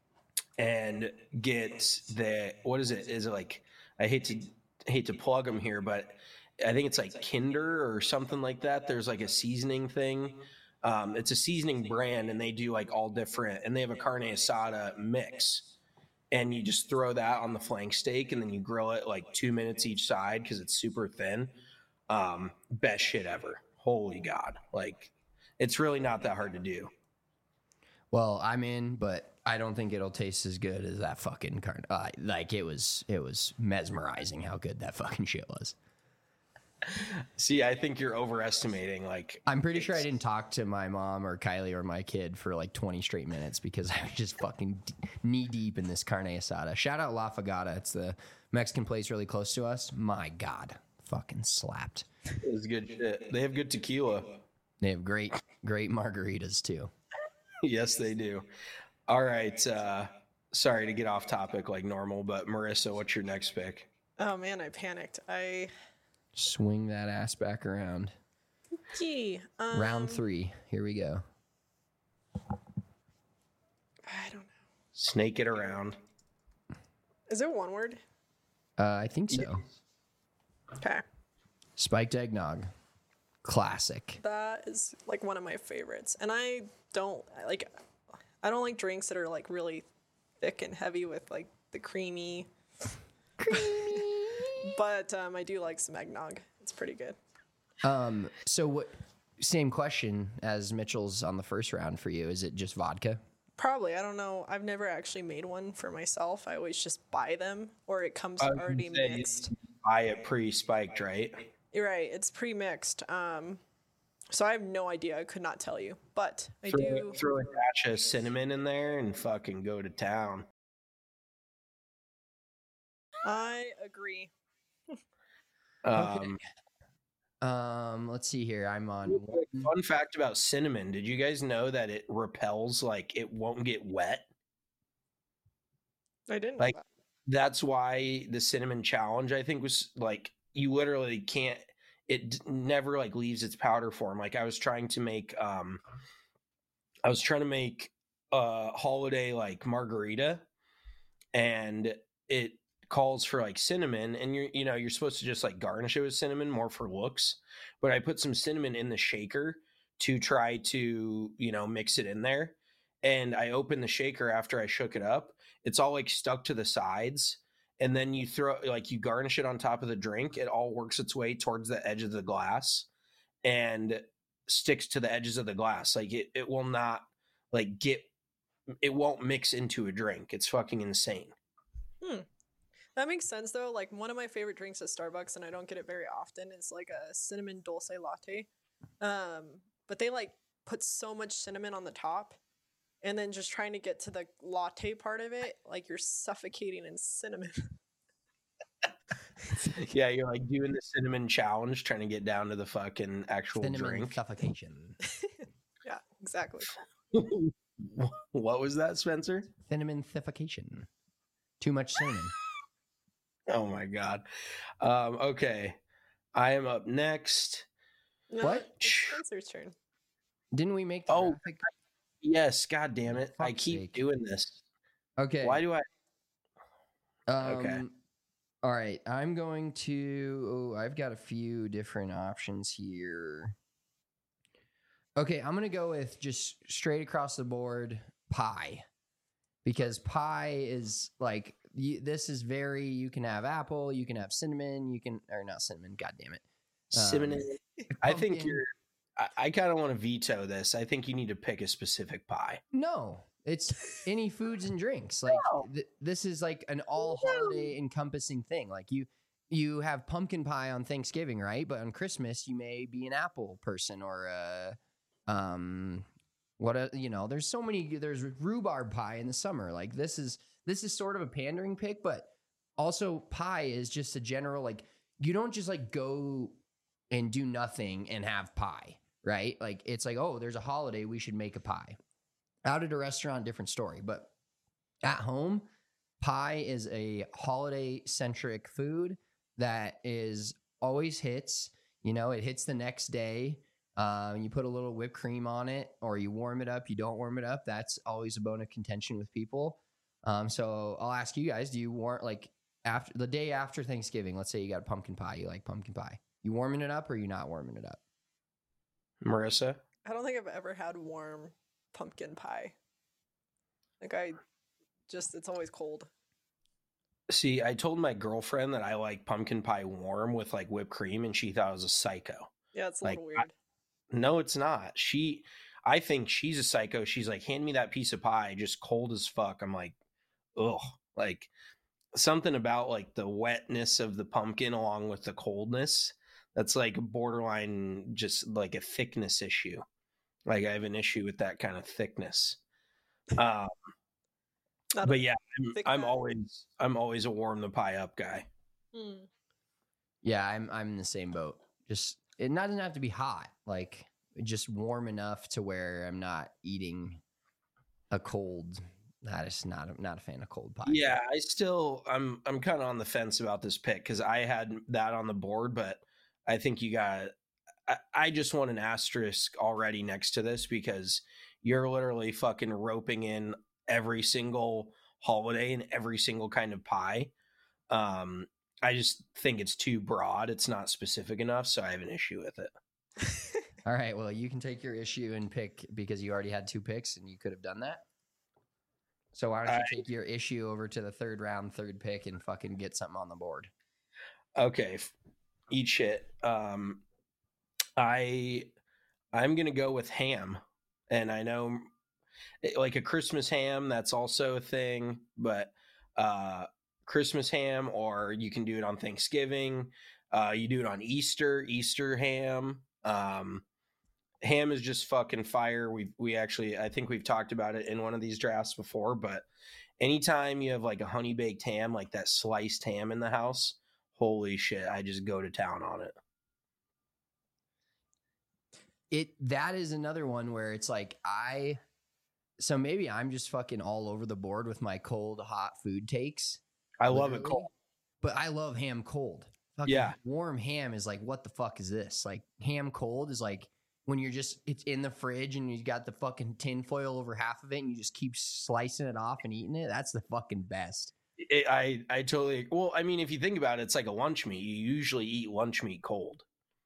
and get the what is it? Is it like I hate to hate to plug them here, but I think it's like Kinder or something like that. There's like a seasoning thing. Um, it's a seasoning brand, and they do like all different. And they have a carne asada mix, and you just throw that on the flank steak, and then you grill it like two minutes each side because it's super thin. Um, best shit ever. Holy God! Like, it's really not that hard to do. Well, I'm in, but I don't think it'll taste as good as that fucking carne. Uh, like it was, it was mesmerizing how good that fucking shit was. See, I think you're overestimating. Like, I'm pretty sure I didn't talk to my mom or Kylie or my kid for like twenty straight minutes because I was just fucking d- knee deep in this carne asada. Shout out La Fagata. It's the Mexican place really close to us. My God, fucking slapped. it was good shit. They have good tequila. They have great, great margaritas too. Yes, they do. All right. Uh, sorry to get off topic like normal, but Marissa, what's your next pick? Oh man, I panicked. I Swing that ass back around. gee. Um, Round three. Here we go. I don't know. Snake it around. Is it one word? Uh, I think so. Okay. Spiked eggnog. Classic. That is like one of my favorites. And I don't like I don't like drinks that are like really thick and heavy with like the creamy creamy. But um, I do like some eggnog. It's pretty good. Um, so what same question as Mitchell's on the first round for you. Is it just vodka? Probably. I don't know. I've never actually made one for myself. I always just buy them or it comes I was already gonna say, mixed. Buy it pre-spiked, right? You're right. It's pre-mixed. Um, so I have no idea. I could not tell you, but I Throw, do. throw a dash of cinnamon in there and fucking go to town. I agree. Um, Um, let's see here. I'm on. real quick, fun fact about cinnamon. Did you guys know that it repels, like it won't get wet? I didn't Like know that. that's why the cinnamon challenge, I think, was like you literally can't, it d- never like leaves its powder form. Like I was trying to make um I was trying to make a holiday like margarita, and it calls for like cinnamon, and you're you know you're supposed to just like garnish it with cinnamon more for looks, but I put some cinnamon in the shaker to try to you know mix it in there, and I opened the shaker after I shook it up. It's all like stuck to the sides, and then you throw like you garnish it on top of the drink. It all works its way towards the edge of the glass and sticks to the edges of the glass. Like it, it will not like get, it won't mix into a drink. It's fucking insane. Hmm. That makes sense though. Like one of my favorite drinks at Starbucks, and I don't get it very often, is like a cinnamon dulce latte. Um, but they like put so much cinnamon on the top, and then just trying to get to the latte part of it, like you're suffocating in cinnamon. Yeah, you're like doing the cinnamon challenge, trying to get down to the fucking actual Cinnamon drink. suffocation. Yeah, exactly. What was that, Spencer? Cinnamon suffocation. Too much cinnamon. Oh my god. Um, okay, I am up next. No, What? It's Spencer's turn. Didn't we make the Oh, graphic? Yes, god damn it! I Fuck's keep sake. doing this. Okay. Why do I? Um, Okay. All right. I'm going to. Oh, I've got a few different options here. Okay. I'm going to go with just straight across the board pie, because pie is like, you, this is very, you can have apple, you can have cinnamon, you can, or not cinnamon, God damn it. Um, Cinnamon. I think pumpkin. you're. I, I kind of want to veto this. I think you need to pick a specific pie. No, it's any foods and drinks. Like No. th- this is like an all holiday encompassing thing. Like you, you have pumpkin pie on Thanksgiving, right? But on Christmas, you may be an apple person or a, um, what a, you know. There's so many. There's rhubarb pie in the summer. Like this is this is sort of a pandering pick, but also pie is just a general like. You don't just like go and do nothing and have pie, right? Like it's like, oh, there's a holiday, we should make a pie. Out at a restaurant, different story. But at home, pie is a holiday centric food that is always hits. You know, it hits the next day. Um, you put a little whipped cream on it, or you warm it up. You don't warm it up. That's always a bone of contention with people. Um, so I'll ask you guys: do you warm like after the day after Thanksgiving? Let's say you got pumpkin pie. You like pumpkin pie. You warming it up, or you not warming it up? Marissa? I don't think I've ever had warm pumpkin pie. Like I just, it's always cold. See, I told my girlfriend that I like pumpkin pie warm with like whipped cream, and she thought I was a psycho. Yeah, it's a Like, little weird. No, it's not. She, I think she's a psycho. She's like, hand me that piece of pie, just cold as fuck. I'm like, ugh. Like something about like the wetness of the pumpkin along with the coldness. That's like borderline, just like a thickness issue. Like I have an issue with that kind of thickness. Um, Not but a yeah, I'm, thick I'm pie. always, I'm always a warm the pie up guy. Hmm. Yeah, I'm I'm in the same boat. Just it not doesn't have to be hot. Like just warm enough to where I'm not eating a cold Not just not a, not a fan of cold pie. Yeah, I still I'm I'm kind of on the fence about this pick because I had that on the board, but I think you got. I, I just want an asterisk already next to this because you're literally fucking roping in every single holiday and every single kind of pie. Um, I just think it's too broad. It's not specific enough, so I have an issue with it. All right, well, you can take your issue and pick because you already had two picks and you could have done that. So why don't you I, take your issue over to the third round, third pick, and fucking get something on the board? Okay, eat shit. Um, I I'm gonna go with ham, and I know like a Christmas ham that's also a thing, but uh, Christmas ham, or you can do it on Thanksgiving. Uh, you do it on Easter, Easter ham. Um, ham is just fucking fire. We we actually I think we've talked about it in one of these drafts before, but anytime you have like a honey baked ham, like that sliced ham in the house, holy shit, I just go to town on it. It that is another one where it's like I so maybe I'm just fucking all over the board with my cold hot food takes. I love it cold. But I love ham cold. Fucking yeah. Warm ham is like, what the fuck is this? Like ham cold is like when you're just, it's in the fridge and you got the fucking tin foil over half of it and you just keep slicing it off and eating it. That's the fucking best. It, I, I totally, well, I mean, if you think about it, it's like a lunch meat. You usually eat lunch meat cold.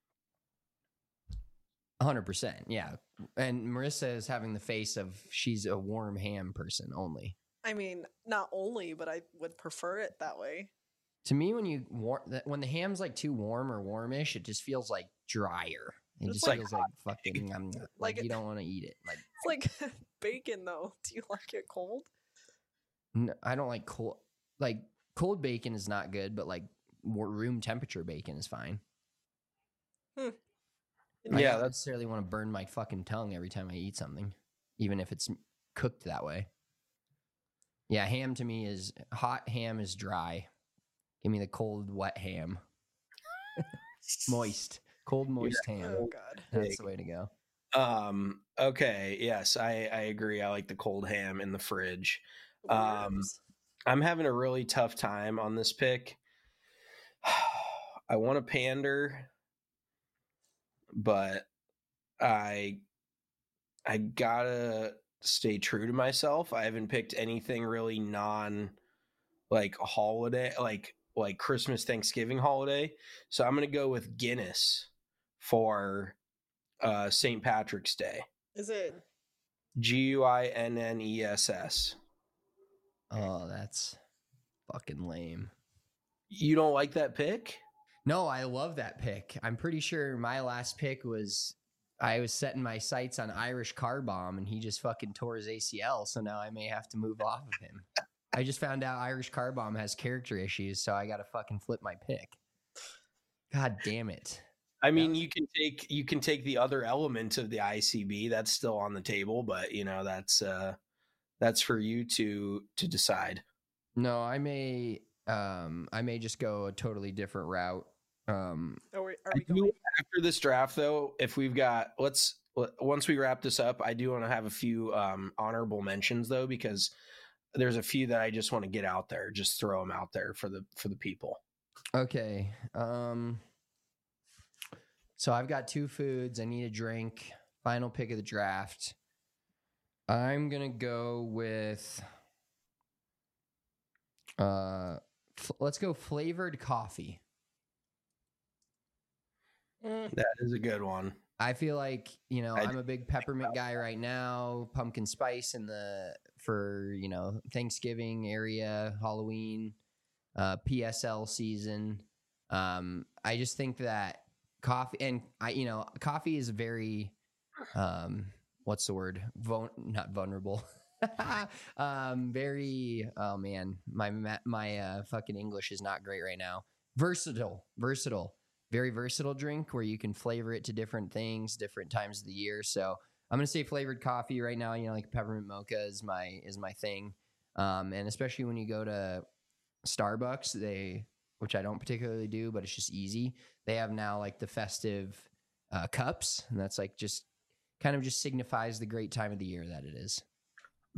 one hundred percent. Yeah. And Marissa is having the face of she's a warm ham person only. I mean, not only, but I would prefer it that way. To me, when you war- when the ham's like too warm or warmish, it just feels like drier. It It's just like feels like fucking. I'm like, Like you it- don't want to eat it. Like It's like bacon, though. Do you like it cold? n- I don't like cold. Like cold bacon is not good, but like more room temperature bacon is fine. Hmm. I Yeah, don't that's necessarily want to burn my fucking tongue every time I eat something, even if it's cooked that way. Yeah, ham to me is hot. Ham is dry. Give me the cold, wet ham. Moist, cold, moist ham. Oh, God. That's the way to go. um okay. Yes, I I agree. I like the cold ham in the fridge. Um, Worms. I'm having a really tough time on this pick. I want to pander, but I I gotta stay true to myself. I haven't picked anything really non like a holiday, like like Christmas, Thanksgiving holiday. So I'm gonna go with Guinness for uh Saint Patrick's Day. Is it? G U I N N E S S. Oh, that's fucking lame. You don't like that pick? No, I love that pick. I'm pretty sure my last pick was I was setting my sights on Irish Car Bomb and he just fucking tore his A C L. So now I may have to move off of him. I just found out Irish Car Bomb has character issues, so I got to fucking flip my pick. God damn it. I mean, you can take you can take the other element of the I C B. That's still on the table, but you know that's uh, that's for you to to decide. No, I may um I may just go a totally different route. Um Are we, are I we do, going? after this draft, though, if we've got let's once we wrap this up, I do want to have a few um, honorable mentions though, because there's a few that I just want to get out there, just throw them out there for the for the people. Okay. Um so I've got two foods, I need a drink. Final pick of the draft. I'm going to go with uh f- let's go flavored coffee. Mm, That is a good one. I feel like, you know, I I'm a big peppermint guy right now, pumpkin spice in the for, you know, Thanksgiving area, Halloween, uh P S L season. Um I just think that coffee and I you know, coffee is very um what's the word? Vul- not vulnerable. um very oh man, my ma- my uh fucking English is not great right now. Versatile, versatile. Very versatile drink where you can flavor it to different things, different times of the year. So I'm gonna say flavored coffee right now. You know, like peppermint mocha is my is my thing, um, and especially when you go to Starbucks, they which I don't particularly do, but it's just easy. They have now like the festive uh, cups, and that's like just kind of just signifies the great time of the year that it is. That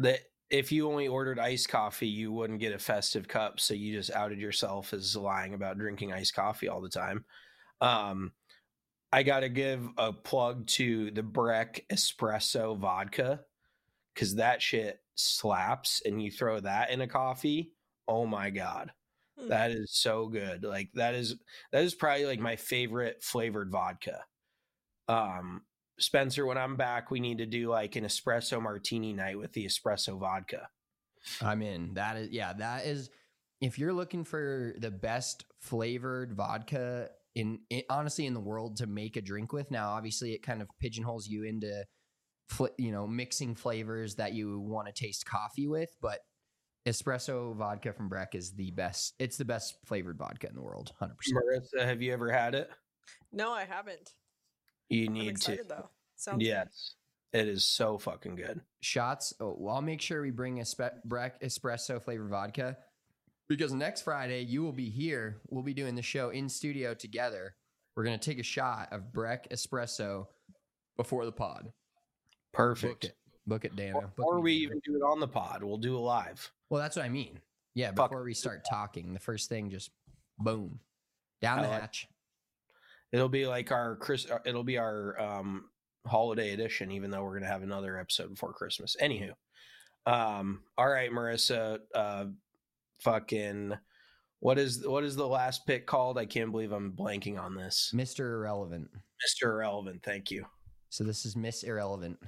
if you only ordered iced coffee, you wouldn't get a festive cup. So you just outed yourself as lying about drinking iced coffee all the time. Um, I got to give a plug to the Breck Espresso Vodka because that shit slaps, and you throw that in a coffee. Oh my God. Hmm. That is so good. Like that is, that is probably like my favorite flavored vodka. Um, Spencer, when I'm back, we need to do like an espresso martini night with the espresso vodka. I'm in. That is, yeah, that is, if you're looking for the best flavored vodka in, in honestly in the world to make a drink with. Now, obviously it kind of pigeonholes you into, fl- you know, mixing flavors that you want to taste coffee with, but espresso vodka from Breck is the best. It's the best flavored vodka in the world. one hundred percent. Marissa, have you ever had it? No, I haven't. You need I'm excited, to. Though. Sounds yes. Good. It is so fucking good. Shots. Oh, well, I'll make sure we bring a spe- Breck espresso flavored vodka because next Friday you will be here. We'll be doing the show in studio together. We're going to take a shot of Breck espresso before the pod. Perfect. Book it, Book it Dana. Book Or we Dana. even do it on the pod. We'll do it live. Well, that's what I mean. Yeah. Fuck. Before we start talking, the first thing, just boom, down I the like hatch. It'll be like our Chris. It'll be our um, holiday edition, even though we're gonna have another episode before Christmas. Anywho, um, all right, Marissa. Uh, fucking, what is what is the last pick called? I can't believe I'm blanking on this. Mister Irrelevant. Mister Irrelevant. Thank you. So this is Miss Irrelevant.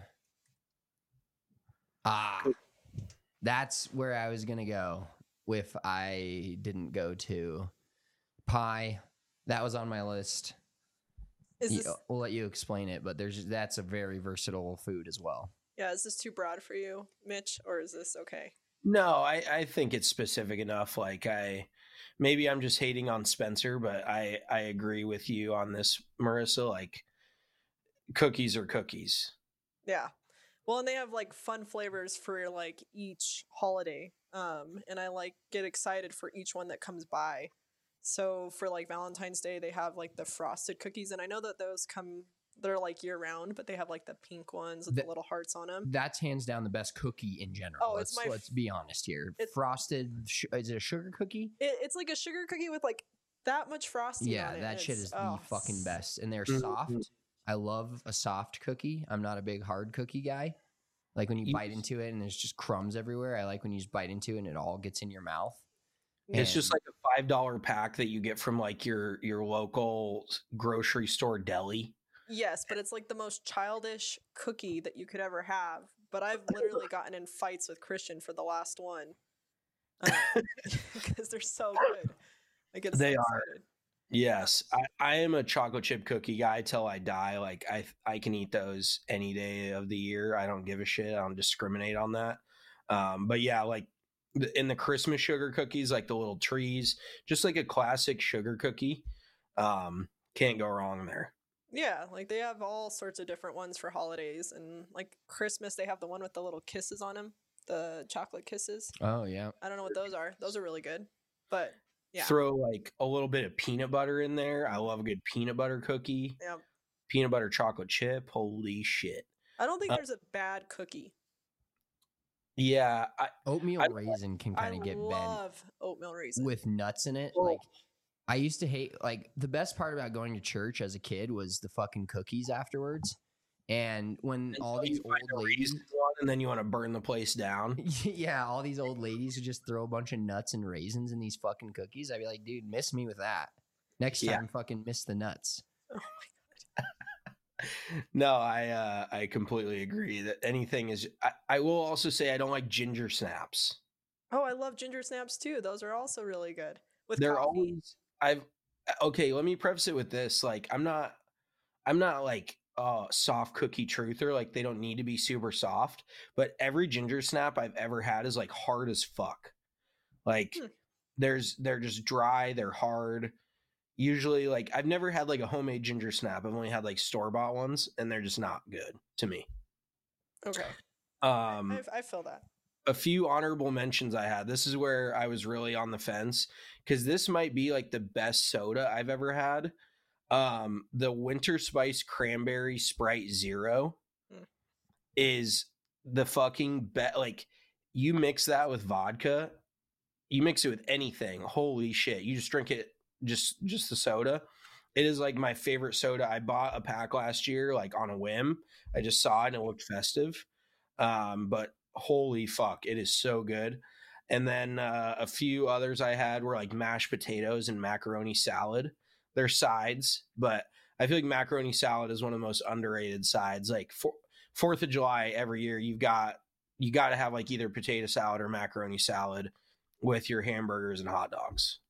Ah, that's where I was gonna go if I didn't go to pie. That was on my list. Is this, we'll let you explain it, but there's that's a very versatile food as well. Yeah, is this too broad for you, Mitch, or is this okay? No, I, I think it's specific enough. Like I, maybe I'm just hating on Spencer, but I, I agree with you on this, Marissa. Like cookies are cookies. Yeah. Well, and they have like fun flavors for like each holiday. Um, and I like get excited for each one that comes by. So for like Valentine's Day, they have like the frosted cookies, and I know that those come, they're like year round, but they have like the pink ones with the, the little hearts on them. That's hands down the best cookie in general. Oh, let's, it's my. Let's be honest here. Frosted, sh- is it a sugar cookie? It, it's like a sugar cookie with like that much frosting. Yeah, on it. that It's, shit is oh. the fucking best, and they're Mm-hmm. soft. I love a soft cookie. I'm not a big hard cookie guy. Like when you, you bite into it and there's just crumbs everywhere. I like when you just bite into it and it all gets in your mouth. It's just like a five dollar pack that you get from like your your local grocery store deli. Yes, but it's like the most childish cookie that you could ever have. But I've literally gotten in fights with Christian for the last one because um, they're so good. I get so they excited. are. Yes, I, I am a chocolate chip cookie guy till I die. Like I I can eat those any day of the year. I don't give a shit. I don't discriminate on that. Um, but yeah, like. In the Christmas sugar cookies, like the little trees, just like a classic sugar cookie. Um, can't go wrong there. Yeah, like they have all sorts of different ones for holidays, and like Christmas, they have the one with the little kisses on them, the chocolate kisses. Oh yeah, I don't know what those are. Those are really good, but yeah. Throw like a little bit of peanut butter in there. I love a good peanut butter cookie. Yeah. Peanut butter chocolate chip. Holy shit! I don't think uh, there's a bad cookie. Yeah, I, oatmeal I, raisin can kind of get bent. I love oatmeal raisin with nuts in it. Oh. Like I used to hate. Like the best part about going to church as a kid was the fucking cookies afterwards. And when all these old ladies, and then you want to burn the place down. Yeah, all these old ladies who just throw a bunch of nuts and raisins in these fucking cookies. I'd be like, dude, miss me with that. Next time, yeah. fucking miss the nuts. Oh my god. No, I uh, I completely agree that anything is. I, I will also say I don't like ginger snaps. Oh, I love ginger snaps too. Those are also really good. With They're coffee. always. I've okay. Let me preface it with this. Like, I'm not. I'm not like a soft cookie truther. Like, they don't need to be super soft. But every ginger snap I've ever had is like hard as fuck. Like, hmm. there's they're just dry. They're hard. Usually, like, I've never had like a homemade ginger snap. I've only had like store bought ones, and they're just not good to me. Okay. Um, I, I feel that. A few honorable mentions I had. This is where I was really on the fence because this might be like the best soda I've ever had. Um, the Winter Spice Cranberry Sprite Zero mm. is the fucking bet. Like, you mix that with vodka, you mix it with anything. Holy shit. You just drink it, just just the soda. It is like my favorite soda. I bought a pack last year, like on a whim. I just saw it and it looked festive. Um, but holy fuck, it is so good. And then uh, a few others I had were like mashed potatoes and macaroni salad. They're sides, but I feel like macaroni salad is one of the most underrated sides. Like for, Fourth of July every year, you've got you got to have like either potato salad or macaroni salad with your hamburgers and hot dogs.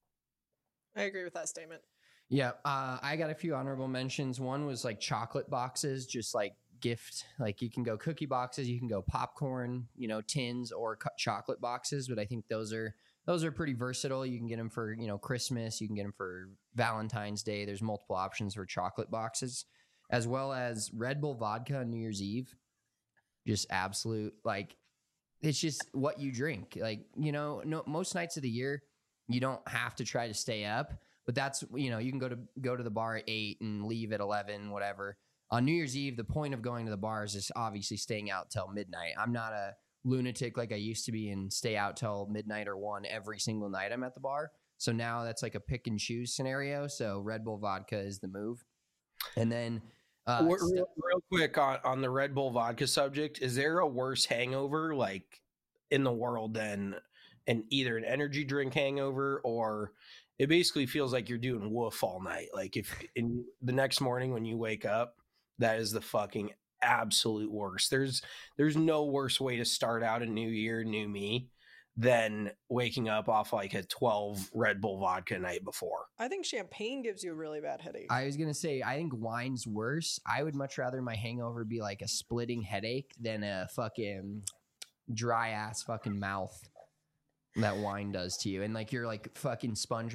I agree with that statement. Yeah, uh, I got a few honorable mentions. One was like chocolate boxes, just like gift. Like you can go cookie boxes, you can go popcorn, you know, tins or co- chocolate boxes. But I think those are those are pretty versatile. You can get them for, you know, Christmas. You can get them for Valentine's Day. There's multiple options for chocolate boxes, as well as Red Bull vodka on New Year's Eve. Just absolute, like, it's just what you drink. Like, you know, no, most nights of the year, you don't have to try to stay up. But that's, you know, you can go to go to the bar at eight and leave at eleven, whatever. On New Year's Eve, the point of going to the bars is obviously staying out till midnight. I'm not a lunatic like I used to be and stay out till midnight or one every single night I'm at the bar. So now that's like a pick and choose scenario. So Red Bull vodka is the move. And then uh, real, st- real quick on, on the Red Bull vodka subject, is there a worse hangover like in the world than an either an energy drink hangover, or it basically feels like you're doing woof all night? Like if in the next morning when you wake up, that is the fucking absolute worst. There's there's no worse way to start out a new year, new me, than waking up off like a twelve Red Bull vodka night before. I think champagne gives you a really bad headache. I was going to say, I think wine's worse. I would much rather my hangover be like a splitting headache than a fucking dry ass fucking mouth that wine does to you. And like you're like fucking SpongeBob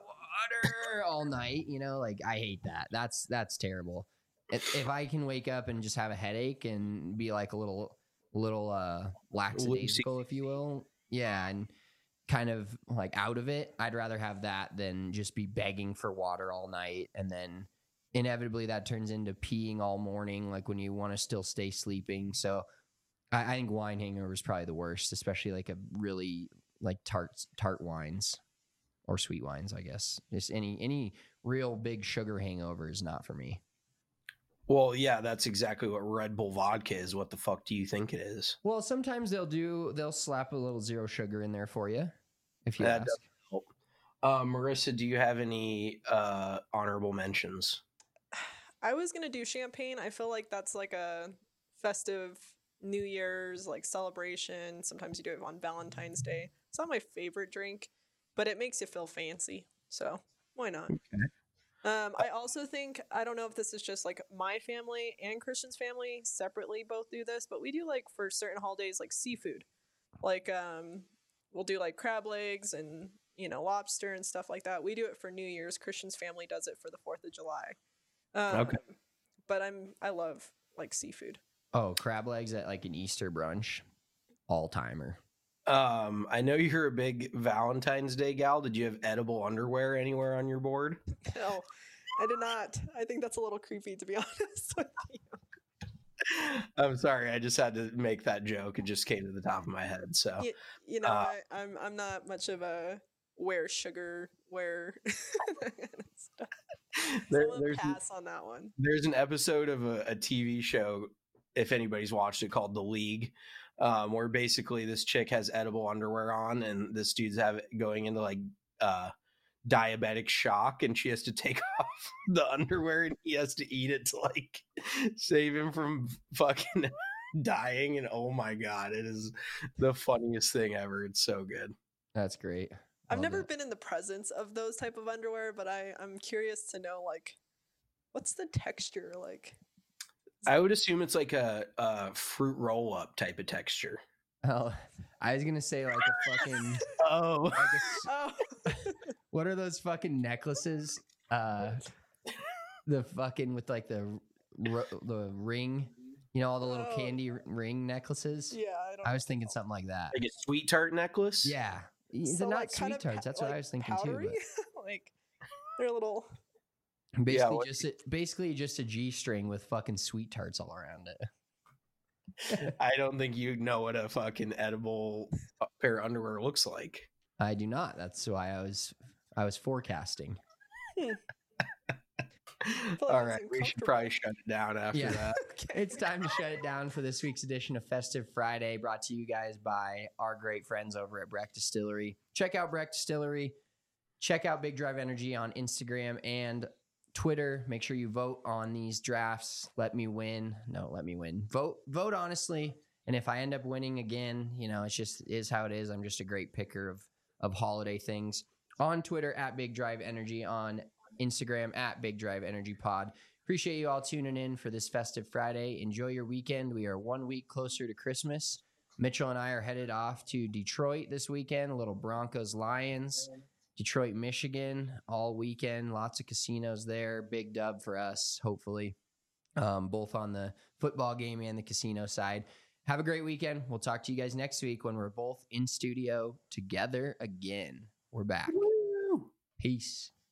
water all night, you know, like I hate that. That's that's terrible. If, if I can wake up and just have a headache and be like a little little uh lackadaisical, if you will, yeah, and kind of like out of it, I'd rather have that than just be begging for water all night, and then inevitably that turns into peeing all morning, like when you want to still stay sleeping. So I, I think wine hangover is probably the worst, especially like a really like tart tart wines or sweet wines, I guess. Just any any real big sugar hangover is not for me. Well, yeah, that's exactly what Red Bull vodka is. What the fuck do you think it is? Well, sometimes they'll do they'll slap a little zero sugar in there for you if you that ask. Doesn't help. Uh, Marissa, do you have any uh, honorable mentions? I was gonna do champagne. I feel like that's like a festive New Year's like celebration. Sometimes you do it on Valentine's Day. It's not my favorite drink, but it makes you feel fancy. So why not? Okay. Um, I also think, I don't know if this is just like my family and Christian's family separately both do this, but we do like for certain holidays like seafood. Like um, we'll do like crab legs and, you know, lobster and stuff like that. We do it for New Year's. Christian's family does it for the fourth of July. Um, Okay. But I'm I love like seafood. Oh, crab legs at like an Easter brunch, all timer. Um, I know you're a big Valentine's Day gal. Did you have edible underwear anywhere on your board? No, I did not. I think that's a little creepy, to be honest with you. I'm sorry. I just had to make that joke. It just came to the top of my head. So, You, you know, uh, I, I'm I'm not much of a wear sugar wear that kind of stuff. there, So I'm there's gonna pass on that one. there's an episode of a, a T V show, if anybody's watched it, called The League, um, where basically this chick has edible underwear on, and this dude's have going into like uh, diabetic shock, and she has to take off the underwear, and he has to eat it to like save him from fucking dying. And oh my god, it is the funniest thing ever. It's so good. That's great. I've Love never it. been in the presence of those type of underwear, but I I'm curious to know like what's the texture like. I would assume it's like a, a fruit roll up type of texture. Oh, I was gonna say like a fucking. Oh, Like a s- Oh, what are those fucking necklaces? Uh, the fucking with like the ro- the ring, you know, all the little Oh. candy r- ring necklaces. yeah. I don't. I was thinking something like that. like a sweet tart necklace. Yeah, they're So, not like, kind sweet of tarts. pa- That's what like I was thinking powdery? too. Like they're a little. But basically, what- just a, basically just a G string with fucking sweet tarts all around it. I don't think you know what a fucking edible pair of underwear looks like. I do not. That's why I was I was forecasting. All right, we should probably shut it down after Yeah. that. Okay. It's time to shut it down for this week's edition of Festive Friday, brought to you guys by our great friends over at Breck Distillery. Check out Breck Distillery. Check out Big Drive Energy on Instagram and Twitter. Make sure you vote on these drafts. Let me win. No, let me win. Vote, vote honestly. And if I end up winning again, you know, it's just is how it is. I'm just a great picker of of holiday things. On Twitter at Big Drive Energy, on Instagram at Big Drive Energy Pod. Appreciate you all tuning in for this Festive Friday. Enjoy your weekend. We are one week closer to Christmas. Mitchell and I are headed off to Detroit this weekend. A little Broncos Lions. Detroit, Michigan, all weekend. Lots of casinos there. Big dub for us, hopefully, um, both on the football game and the casino side. Have a great weekend. We'll talk to you guys next week when we're both in studio together again. We're back. Woo! Peace.